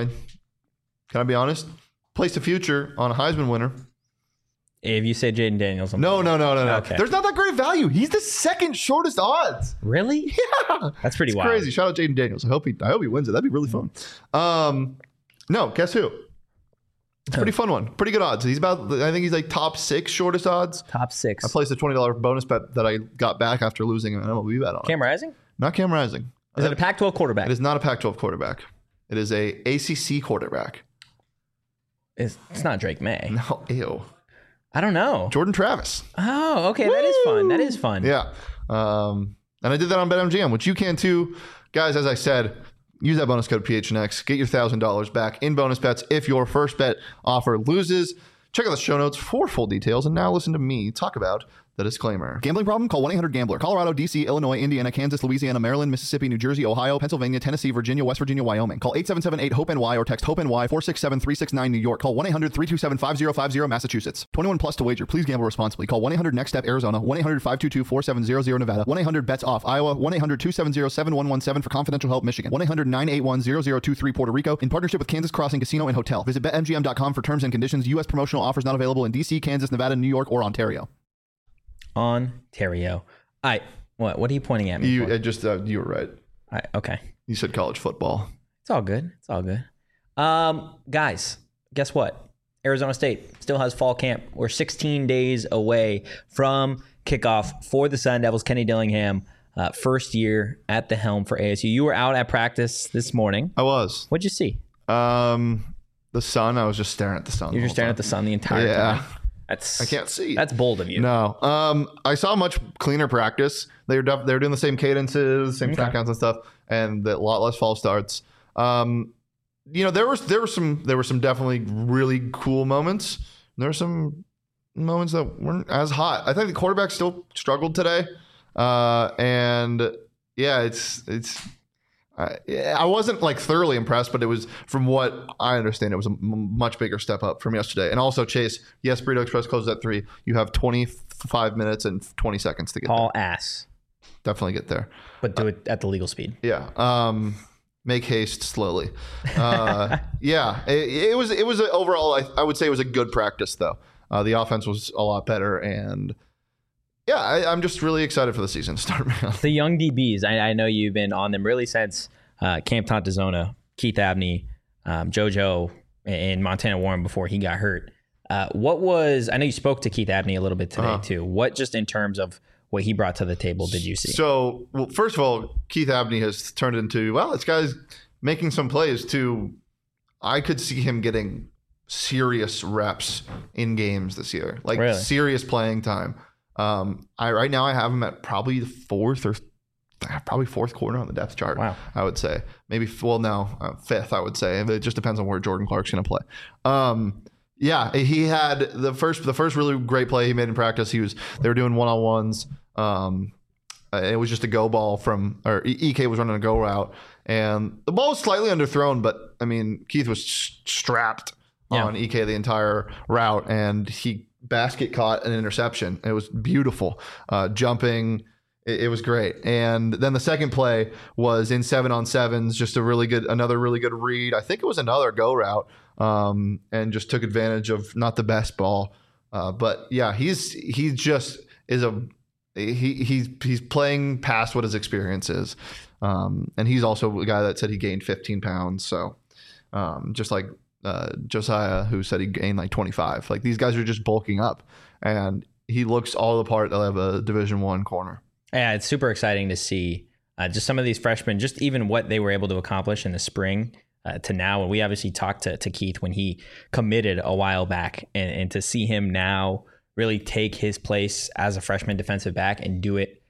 I be honest? Place a future on a Heisman winner. If you say Jaden Daniels. No. Okay. There's not that great value. He's the second shortest odds. Really? Yeah. That's pretty wild. Crazy. Shout out Jaden Daniels. I hope he wins it. That'd be really fun. No, guess who? It's a pretty fun one. Pretty good odds. I think he's like top 6 shortest odds. Top 6. I placed a $20 bonus bet that I got back after losing an MLB bet on. Cam Rising? Not Cam Rising. Is it a Pac-12 quarterback? It is not a Pac-12 quarterback. It is a ACC quarterback. It's not Drake May. No, ew. I don't know. Jordan Travis. Oh, okay. Woo! That is fun. That is fun. Yeah. And I did that on BetMGM, which you can too. Guys, as I said, use that bonus code PHNX. Get your $1,000 back in bonus bets if your first bet offer loses. Check out the show notes for full details. And now listen to me talk about the disclaimer. Gambling problem? Call 1-800-GAMBLER. Colorado, D.C., Illinois, Indiana, Kansas, Louisiana, Maryland, Mississippi, New Jersey, Ohio, Pennsylvania, Tennessee, Virginia, West Virginia, Wyoming. Call 877-8-HOPE-NY or text HOPE-NY 467-369 New York. Call 1-800-327-5050 Massachusetts. 21 plus to wager. Please gamble responsibly. Call 1-800-NEXT-STEP Arizona. 1-800-522-4700 Nevada. 1-800-BETS-OFF Iowa. 1-800-270-7117 for confidential help Michigan. 1-800-981-0023 Puerto Rico in partnership with Kansas Crossing Casino and Hotel. Visit BetMGM.com for terms and conditions. U.S. promotional offers not available in D.C., Kansas, Nevada, New York, or Ontario. Ontario. What are you pointing at me You for? you were right. Okay. You said college football. It's all good. It's all good. Guys, guess what? Arizona State still has fall camp. We're 16 days away from kickoff for the Sun Devils. Kenny Dillingham, first year at the helm for ASU. You were out at practice this morning. I was. What'd you see? The sun. I was just staring at the sun. You're just staring at the sun the entire time. I can't see. That's bold of you. No. I saw a much cleaner practice. They were doing the same cadences, same snap counts and stuff, and a lot less false starts. There were some definitely really cool moments. There were some moments that weren't as hot. I think the quarterback still struggled today, and yeah, I wasn't like thoroughly impressed, but it was, from what I understand, it was a much bigger step up from yesterday. And also, Chase, yes, Burrito Express closes at 3. You have 25 minutes and 20 seconds to get there. Haul ass. Definitely get there. But do it at the legal speed. Yeah. Make haste slowly. Yeah. It was overall, I would say it was a good practice, though. The offense was a lot better, and yeah, I'm just really excited for the season to start. The young DBs, I know you've been on them really since Camp Tontezona, Keith Abney, JoJo, and Montana Warren before he got hurt. I know you spoke to Keith Abney a little bit today too. What, just in terms of what he brought to the table, did you see? So, well, first of all, Keith Abney has turned into, this guy's making some plays too. I could see him getting serious reps in games this year, like serious playing time. Right now I have him at probably the fourth corner on the depth chart. Wow. I would say maybe, fifth, I would say. It just depends on where Jordan Clark's going to play. He had the first really great play he made in practice. They were doing one-on-ones. It was just a go ball EK was running a go route, and the ball was slightly underthrown, but I mean, Keith was strapped on EK the entire route, and he basket caught an interception. It was beautiful. Jumping, it was great. And then the second play was in 7-on-7s, just another really good read. I think it was another go route, and just took advantage of not the best ball. But yeah, he's playing past what his experience is. And he's also a guy that said he gained 15 pounds. So just like Josiah, who said he gained like 25. Like, these guys are just bulking up, and he looks all the part of a Division I corner. Yeah, it's super exciting to see just some of these freshmen, just even what they were able to accomplish in the spring to now. And we obviously talked to Keith when he committed a while back, and to see him now really take his place as a freshman defensive back and do it.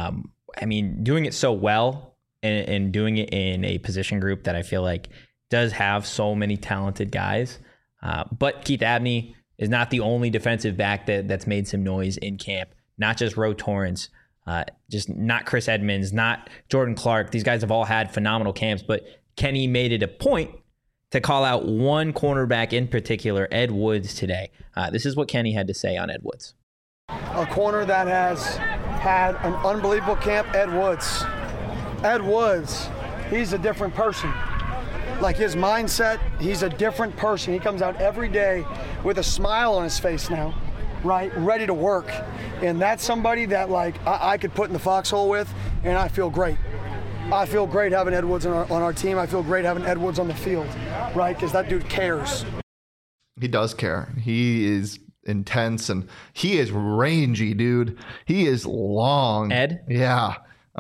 Doing it so well and doing it in a position group that I feel like does have so many talented guys. But Keith Abney is not the only defensive back that's made some noise in camp. Not just Ro Torrance, just not Chris Edmonds, not Jordan Clark. These guys have all had phenomenal camps, but Kenny made it a point to call out one cornerback in particular, Ed Woods, today. This is what Kenny had to say on Ed Woods. A corner that has had an unbelievable camp, Ed Woods. Ed Woods, he's a different person. Like, his mindset, he's a different person. He comes out every day with a smile on his face now, right? Ready to work. And that's somebody that, like, I could put in the foxhole with, and I feel great. I feel great having Ed Woods on our team. I feel great having Ed Woods on the field, right? Because that dude cares. He does care. He is intense, and he is rangy, dude. He is long. Ed? Yeah.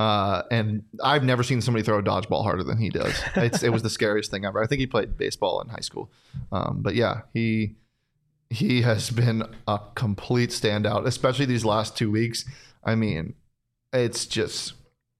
And I've never seen somebody throw a dodgeball harder than he does. It was the scariest thing ever. I think he played baseball in high school. But yeah, he has been a complete standout, especially these last 2 weeks. I mean, it's just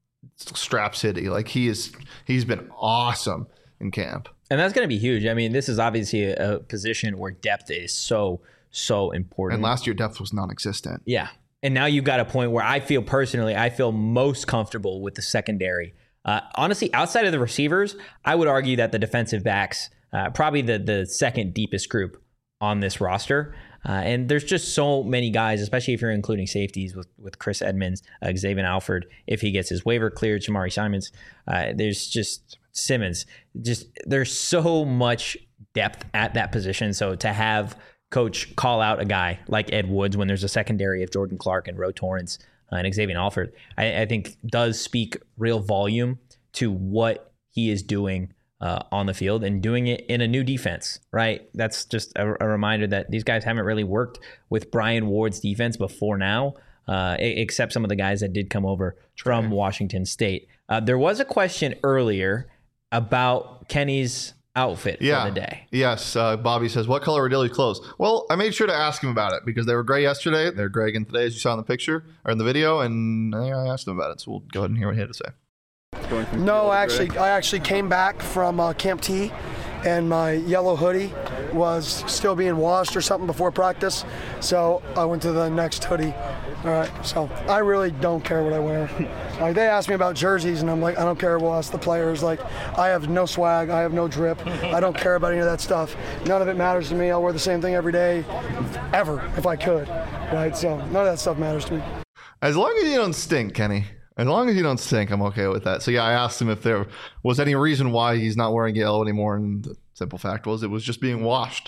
Strap City. Like, he's been awesome in camp. And that's going to be huge. I mean, this is obviously a position where depth is so important. And last year, depth was non-existent. Yeah. And now you've got a point where I feel most comfortable with the secondary. Honestly, outside of the receivers, I would argue that the defensive backs, probably the second deepest group on this roster. And there's just so many guys, especially if you're including safeties with Chris Edmonds, Xavier Alford, if he gets his waiver cleared, Jamari Simons. There's just Simmons. There's so much depth at that position. So to have Coach call out a guy like Ed Woods when there's a secondary of Jordan Clark and Ro Torrance and Xavier Alford, I think does speak real volume to what he is doing on the field, and doing it in a new defense, right? That's just a reminder that these guys haven't really worked with Brian Ward's defense before now, except some of the guys that did come over from Washington State. There was a question earlier about Kenny's outfit for the day. Yes. Bobby says, what color are Dilly's clothes? Well, I made sure to ask him about it because they were gray yesterday. They're gray again today, as you saw in the picture or in the video, and I asked him about it. So we'll go ahead and hear what he had to say. No, I actually came back from Camp T, and my yellow hoodie was still being washed or something before practice, so I went to the next hoodie. All right, so I really don't care what I wear. Like, they ask me about jerseys, and I'm like, I don't care. We'll ask the players. Like, I have no swag. I have no drip. I don't care about any of that stuff. None of it matters to me. I'll wear the same thing every day, ever, if I could. Right? So none of that stuff matters to me. As long as you don't stink, Kenny. As long as you don't stink, I'm okay with that. So yeah, I asked him if there was any reason why he's not wearing yellow anymore, and the simple fact was it was just being washed.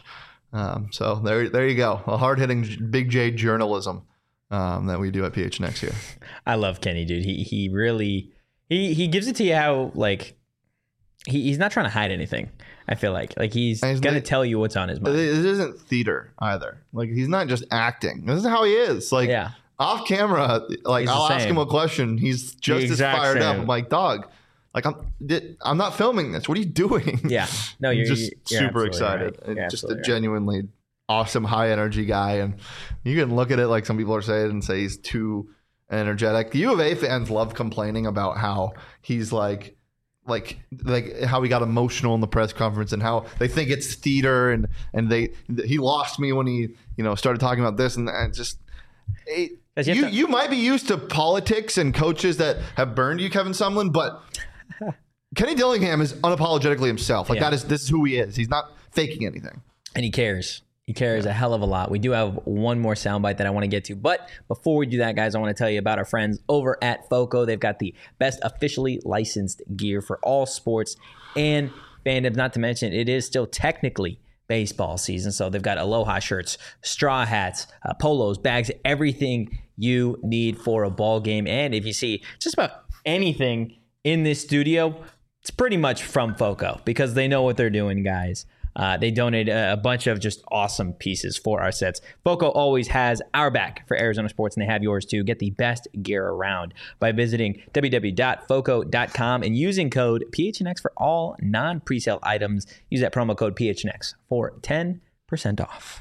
So there you go. A hard-hitting Big J journalism that we do at PHNX here. I love Kenny, dude. He really he gives it to you how, like, he's not trying to hide anything. I feel like he's gonna tell you what's on his mind. It isn't theater either. Like, he's not just acting. This is how he is. Like, off camera, like, I'll ask him a question. He's just as fired up. I'm like, dog, like, I'm not filming this. What are you doing? Yeah. No, you're just super excited. Right. Just a genuinely awesome, high energy guy. And you can look at it like some people are saying and say he's too energetic. The U of A fans love complaining about how he's like how he got emotional in the press conference and how they think it's theater and he lost me when he started talking about this and that. Just you might be used to politics and coaches that have burned you, Kevin Sumlin, but Kenny Dillingham is unapologetically himself. Like, this is who he is. He's not faking anything, and he cares. He cares a hell of a lot. We do have one more soundbite that I want to get to. But before we do that, guys, I want to tell you about our friends over at FOCO. They've got the best officially licensed gear for all sports and fandoms. Not to mention, it is still technically baseball season. So they've got Aloha shirts, straw hats, polos, bags, everything you need for a ball game. And if you see just about anything in this studio, it's pretty much from FOCO because they know what they're doing, guys. They donate a bunch of just awesome pieces for our sets. FOCO always has our back for Arizona sports, and they have yours too. Get the best gear around by visiting www.foco.com and using code PHNX for all non-presale items. Use that promo code PHNX for 10% off.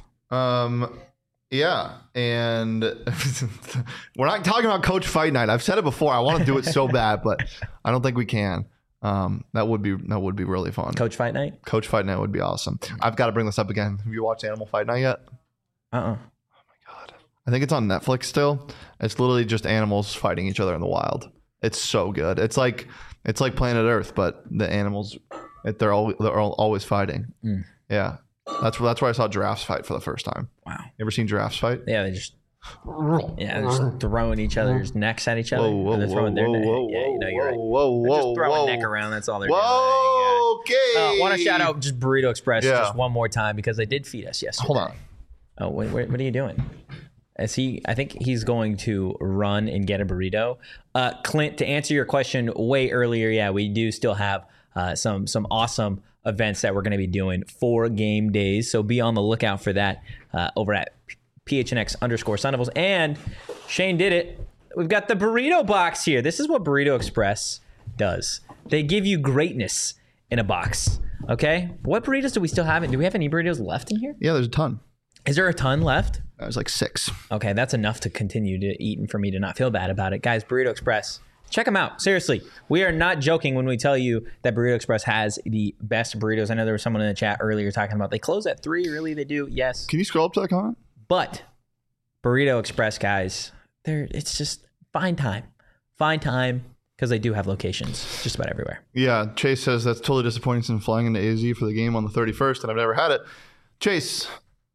Yeah, and we're not talking about Coach Fight Night. I've said it before. I want to do it so bad, but I don't think we can. That would be really fun. Coach Fight Night? Coach Fight Night would be awesome. I've got to bring this up again. Have you watched Animal Fight Night yet? Oh my God. I think it's on Netflix still. It's literally just animals fighting each other in the wild. It's so good. It's like Planet Earth, but the animals, they're always fighting. Yeah. That's where I saw giraffes fight for the first time. Wow. You ever seen giraffes fight? Yeah, they're just throwing each other's necks at each other. They're throwing their neck. Yeah, you're right. They're just throwing neck around. That's all they're doing. Okay. I want to shout out just Burrito Express just one more time because they did feed us yesterday. Hold on. Oh, wait, what are you doing? I think he's going to run and get a burrito. Clint, to answer your question way earlier, we do still have some awesome events that we're going to be doing for game days. So be on the lookout for that over at PHNX_Sundables. And Shane did it. We've got the burrito box here. This is what Burrito Express does. They give you greatness in a box. Okay? What burritos do we still have? Do we have any burritos left in here? Yeah, there's a ton. Is there a ton left? There's like 6. Okay, that's enough to continue to eat and for me to not feel bad about it. Guys, Burrito Express, check them out. Seriously, we are not joking when we tell you that Burrito Express has the best burritos. I know there was someone in the chat earlier talking about they close at 3. Really, they do? Yes. Can you scroll up to that comment? But Burrito Express, guys, it's just fine time because they do have locations just about everywhere. Yeah, Chase says that's totally disappointing since flying into AZ for the game on the 31st, and I've never had it. Chase,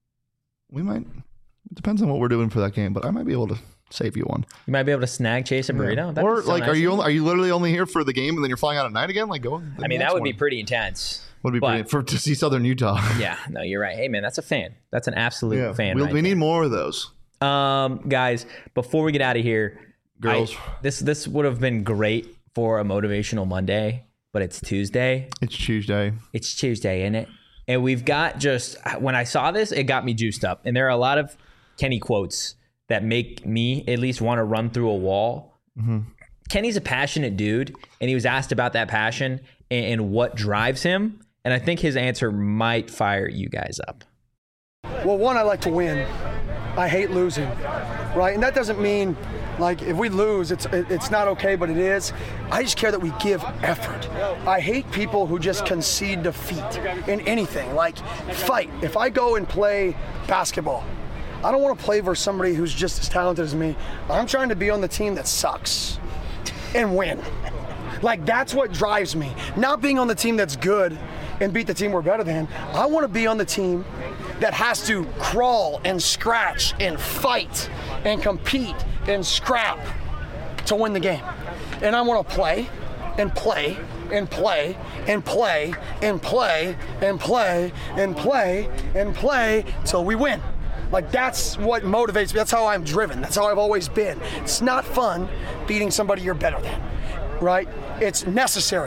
it depends on what we're doing for that game, but I might be able to save you one. You might be able to snag Chase a burrito. Yeah. Or like, nice. Are you literally only here for the game and then you're flying out at night again? Like, go. I mean, that would be pretty intense. To see Southern Utah. Yeah, no, you're right. Hey, man, that's a fan. That's an absolute fan. We need more of those. Guys, before we get out of here, girls, this would have been great for a motivational Monday, but it's Tuesday. It's Tuesday, isn't it? And we've got when I saw this, it got me juiced up. And there are a lot of Kenny quotes that make me at least want to run through a wall. Mm-hmm. Kenny's a passionate dude, and he was asked about that passion and what drives him. And I think his answer might fire you guys up. Well, one, I like to win. I hate losing, right? And that doesn't mean, like, if we lose, it's not okay, but it is. I just care that we give effort. I hate people who just concede defeat in anything, like fight. If I go and play basketball, I don't want to play versus somebody who's just as talented as me. I'm trying to be on the team that sucks and win. Like, that's what drives me. Not being on the team that's good and beat the team we're better than. I want to be on the team that has to crawl and scratch and fight and compete and scrap to win the game. And I want to play and play and play and play and play and play and play and play till we win. Like, that's what motivates me. That's how I'm driven. That's how I've always been. It's not fun beating somebody you're better than, right? It's necessary.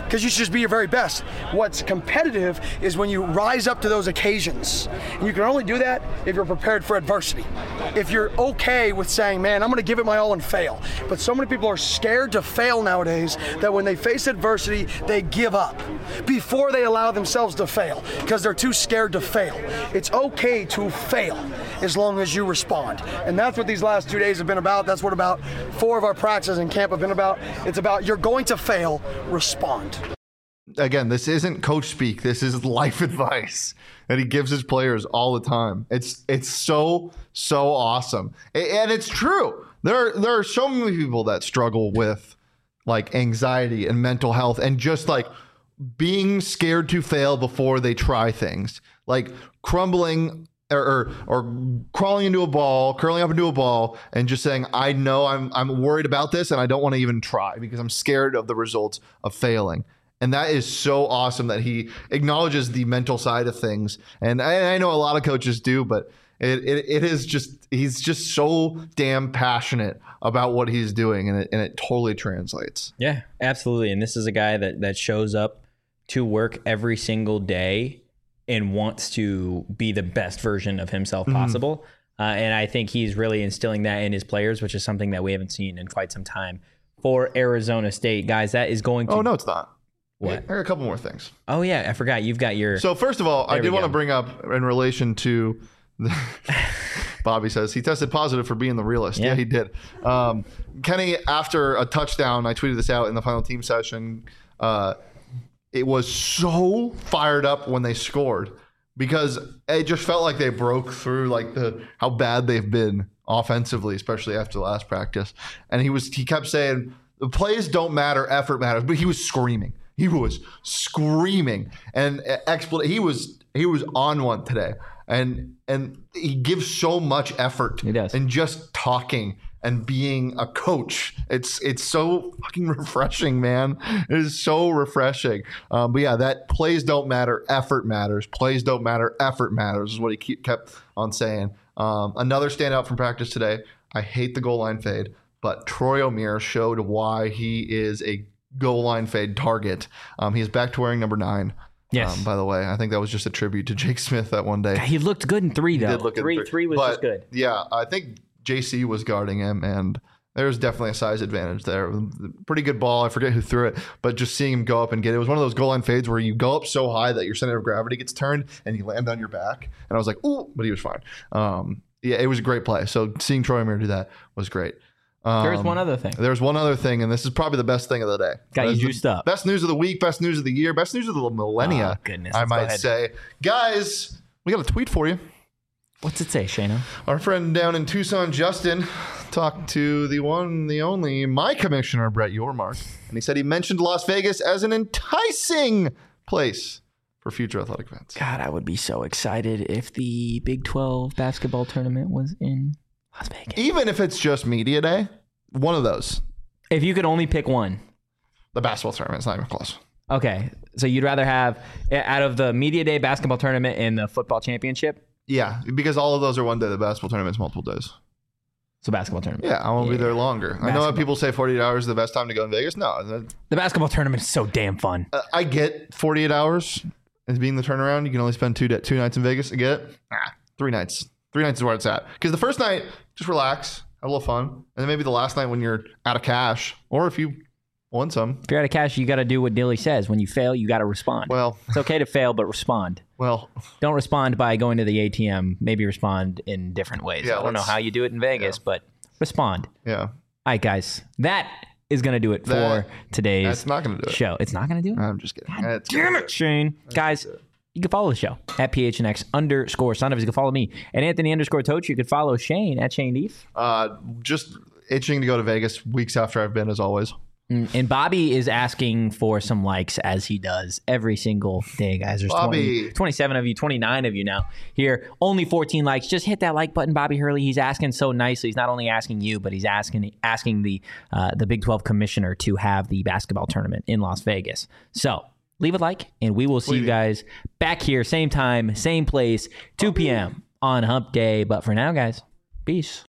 because you should just be your very best. What's competitive is when you rise up to those occasions. And you can only do that if you're prepared for adversity. If you're okay with saying, man, I'm going to give it my all and fail. But so many people are scared to fail nowadays that when they face adversity, they give up before they allow themselves to fail because they're too scared to fail. It's okay to fail as long as you respond. And that's what these last 2 days have been about. That's what about 4 of our practices in camp have been about. It's about you're going to fail, respond. Again, this isn't coach speak. This is life advice that he gives his players all the time. It's so awesome. And it's true. There are so many people that struggle with like anxiety and mental health and just like being scared to fail before they try things, like crumbling or crawling into a ball, curling up into a ball, and just saying, I know I'm worried about this and I don't want to even try because I'm scared of the results of failing. And that is so awesome that he acknowledges the mental side of things. And I know a lot of coaches do, but it is just, he's just so damn passionate about what he's doing, and it totally translates. Yeah, absolutely. And this is a guy that shows up to work every single day and wants to be the best version of himself possible. And I think he's really instilling that in his players, which is something that we haven't seen in quite some time for Arizona State. Guys, that is going to... Oh, no, it's not. What? I got a couple more things. Oh, yeah, I forgot. You've got your... So first of all, I did want to bring up in relation to... Bobby says he tested positive for being the realist. Yeah, he did. Kenny, after a touchdown, I tweeted this out in the final team session, it was so fired up when they scored because it just felt like they broke through like how bad they've been offensively, especially after the last practice. And he kept saying the plays don't matter, effort matters, but he was screaming. He was screaming and he was on one today. And he gives so much effort. He does. And just talking and being a coach. It's so fucking refreshing, man. It is so refreshing. But yeah, that plays don't matter, effort matters. Plays don't matter, effort matters is what he kept on saying. Another standout from practice today. I hate the goal line fade, but Troy Omeire showed why he is a goal line fade target. He is back to wearing number 9. Yes. By the way, I think that was just a tribute to Jake Smith that one day. God, he looked good in 3, though. He did look good in 3 was just good. Yeah, I think JC was guarding him, and there's definitely a size advantage there. Pretty good ball. I forget who threw it, but just seeing him go up and get it. It was one of those goal line fades where you go up so high that your center of gravity gets turned and you land on your back. And I was like, ooh, but he was fine. Yeah, it was a great play. So seeing Troy Omeire do that was great. There's one other thing. There's one other thing, and this is probably the best thing of the day. Got you juiced up. Best news of the week, best news of the year, best news of the millennia. Oh, goodness. I might say. Guys, we got a tweet for you. What's it say, Shayna? Our friend down in Tucson, Justin, talked to the one, the only, my commissioner, Brett Yormark, and he said he mentioned Las Vegas as an enticing place for future athletic events. God, I would be so excited if the Big 12 basketball tournament was in Las Vegas. Even if it's just media day, one of those. If you could only pick one. The basketball tournament is not even close. Okay. So you'd rather have, out of the media day basketball tournament and the football championship? Yeah, because all of those are one day. The basketball tournament's multiple days. So basketball tournament. Yeah, I won't be there longer. Basketball. I know that people say 48 hours is the best time to go in Vegas. No. The basketball tournament is so damn fun. I get 48 hours as being the turnaround. You can only spend 2 nights in Vegas. I get it. 3 nights. 3 nights is where it's at. Because the first night, just relax, have a little fun. And then maybe the last night when you're out of cash, or if you won some. If you're out of cash, you got to do what Dilly says. When you fail, you got to respond. Well, it's okay to fail, but respond. Well, don't respond by going to the ATM. Maybe respond in different ways. Yeah, I don't know how you do it in Vegas, but respond. Yeah. All right, guys. That is going to do it for today's That's not going to do it. show. It's not going to do it? I'm just kidding. God damn it, Shane. Guys, you can follow the show at PHNX_Son-of. You can follow me at Anthony_Toach. You can follow Shane at Shane Deef. Just itching to go to Vegas weeks after I've been, as always. And Bobby is asking for some likes, as he does every single day, guys. There's 27 of you, 29 of you now here. Only 14 likes. Just hit that like button, Bobby Hurley. He's asking so nicely. He's not only asking you, but he's asking the Big 12 commissioner to have the basketball tournament in Las Vegas. So leave a like, and we will see you guys back here, same time, same place, 2 p.m. on Hump Day. But for now, guys, peace.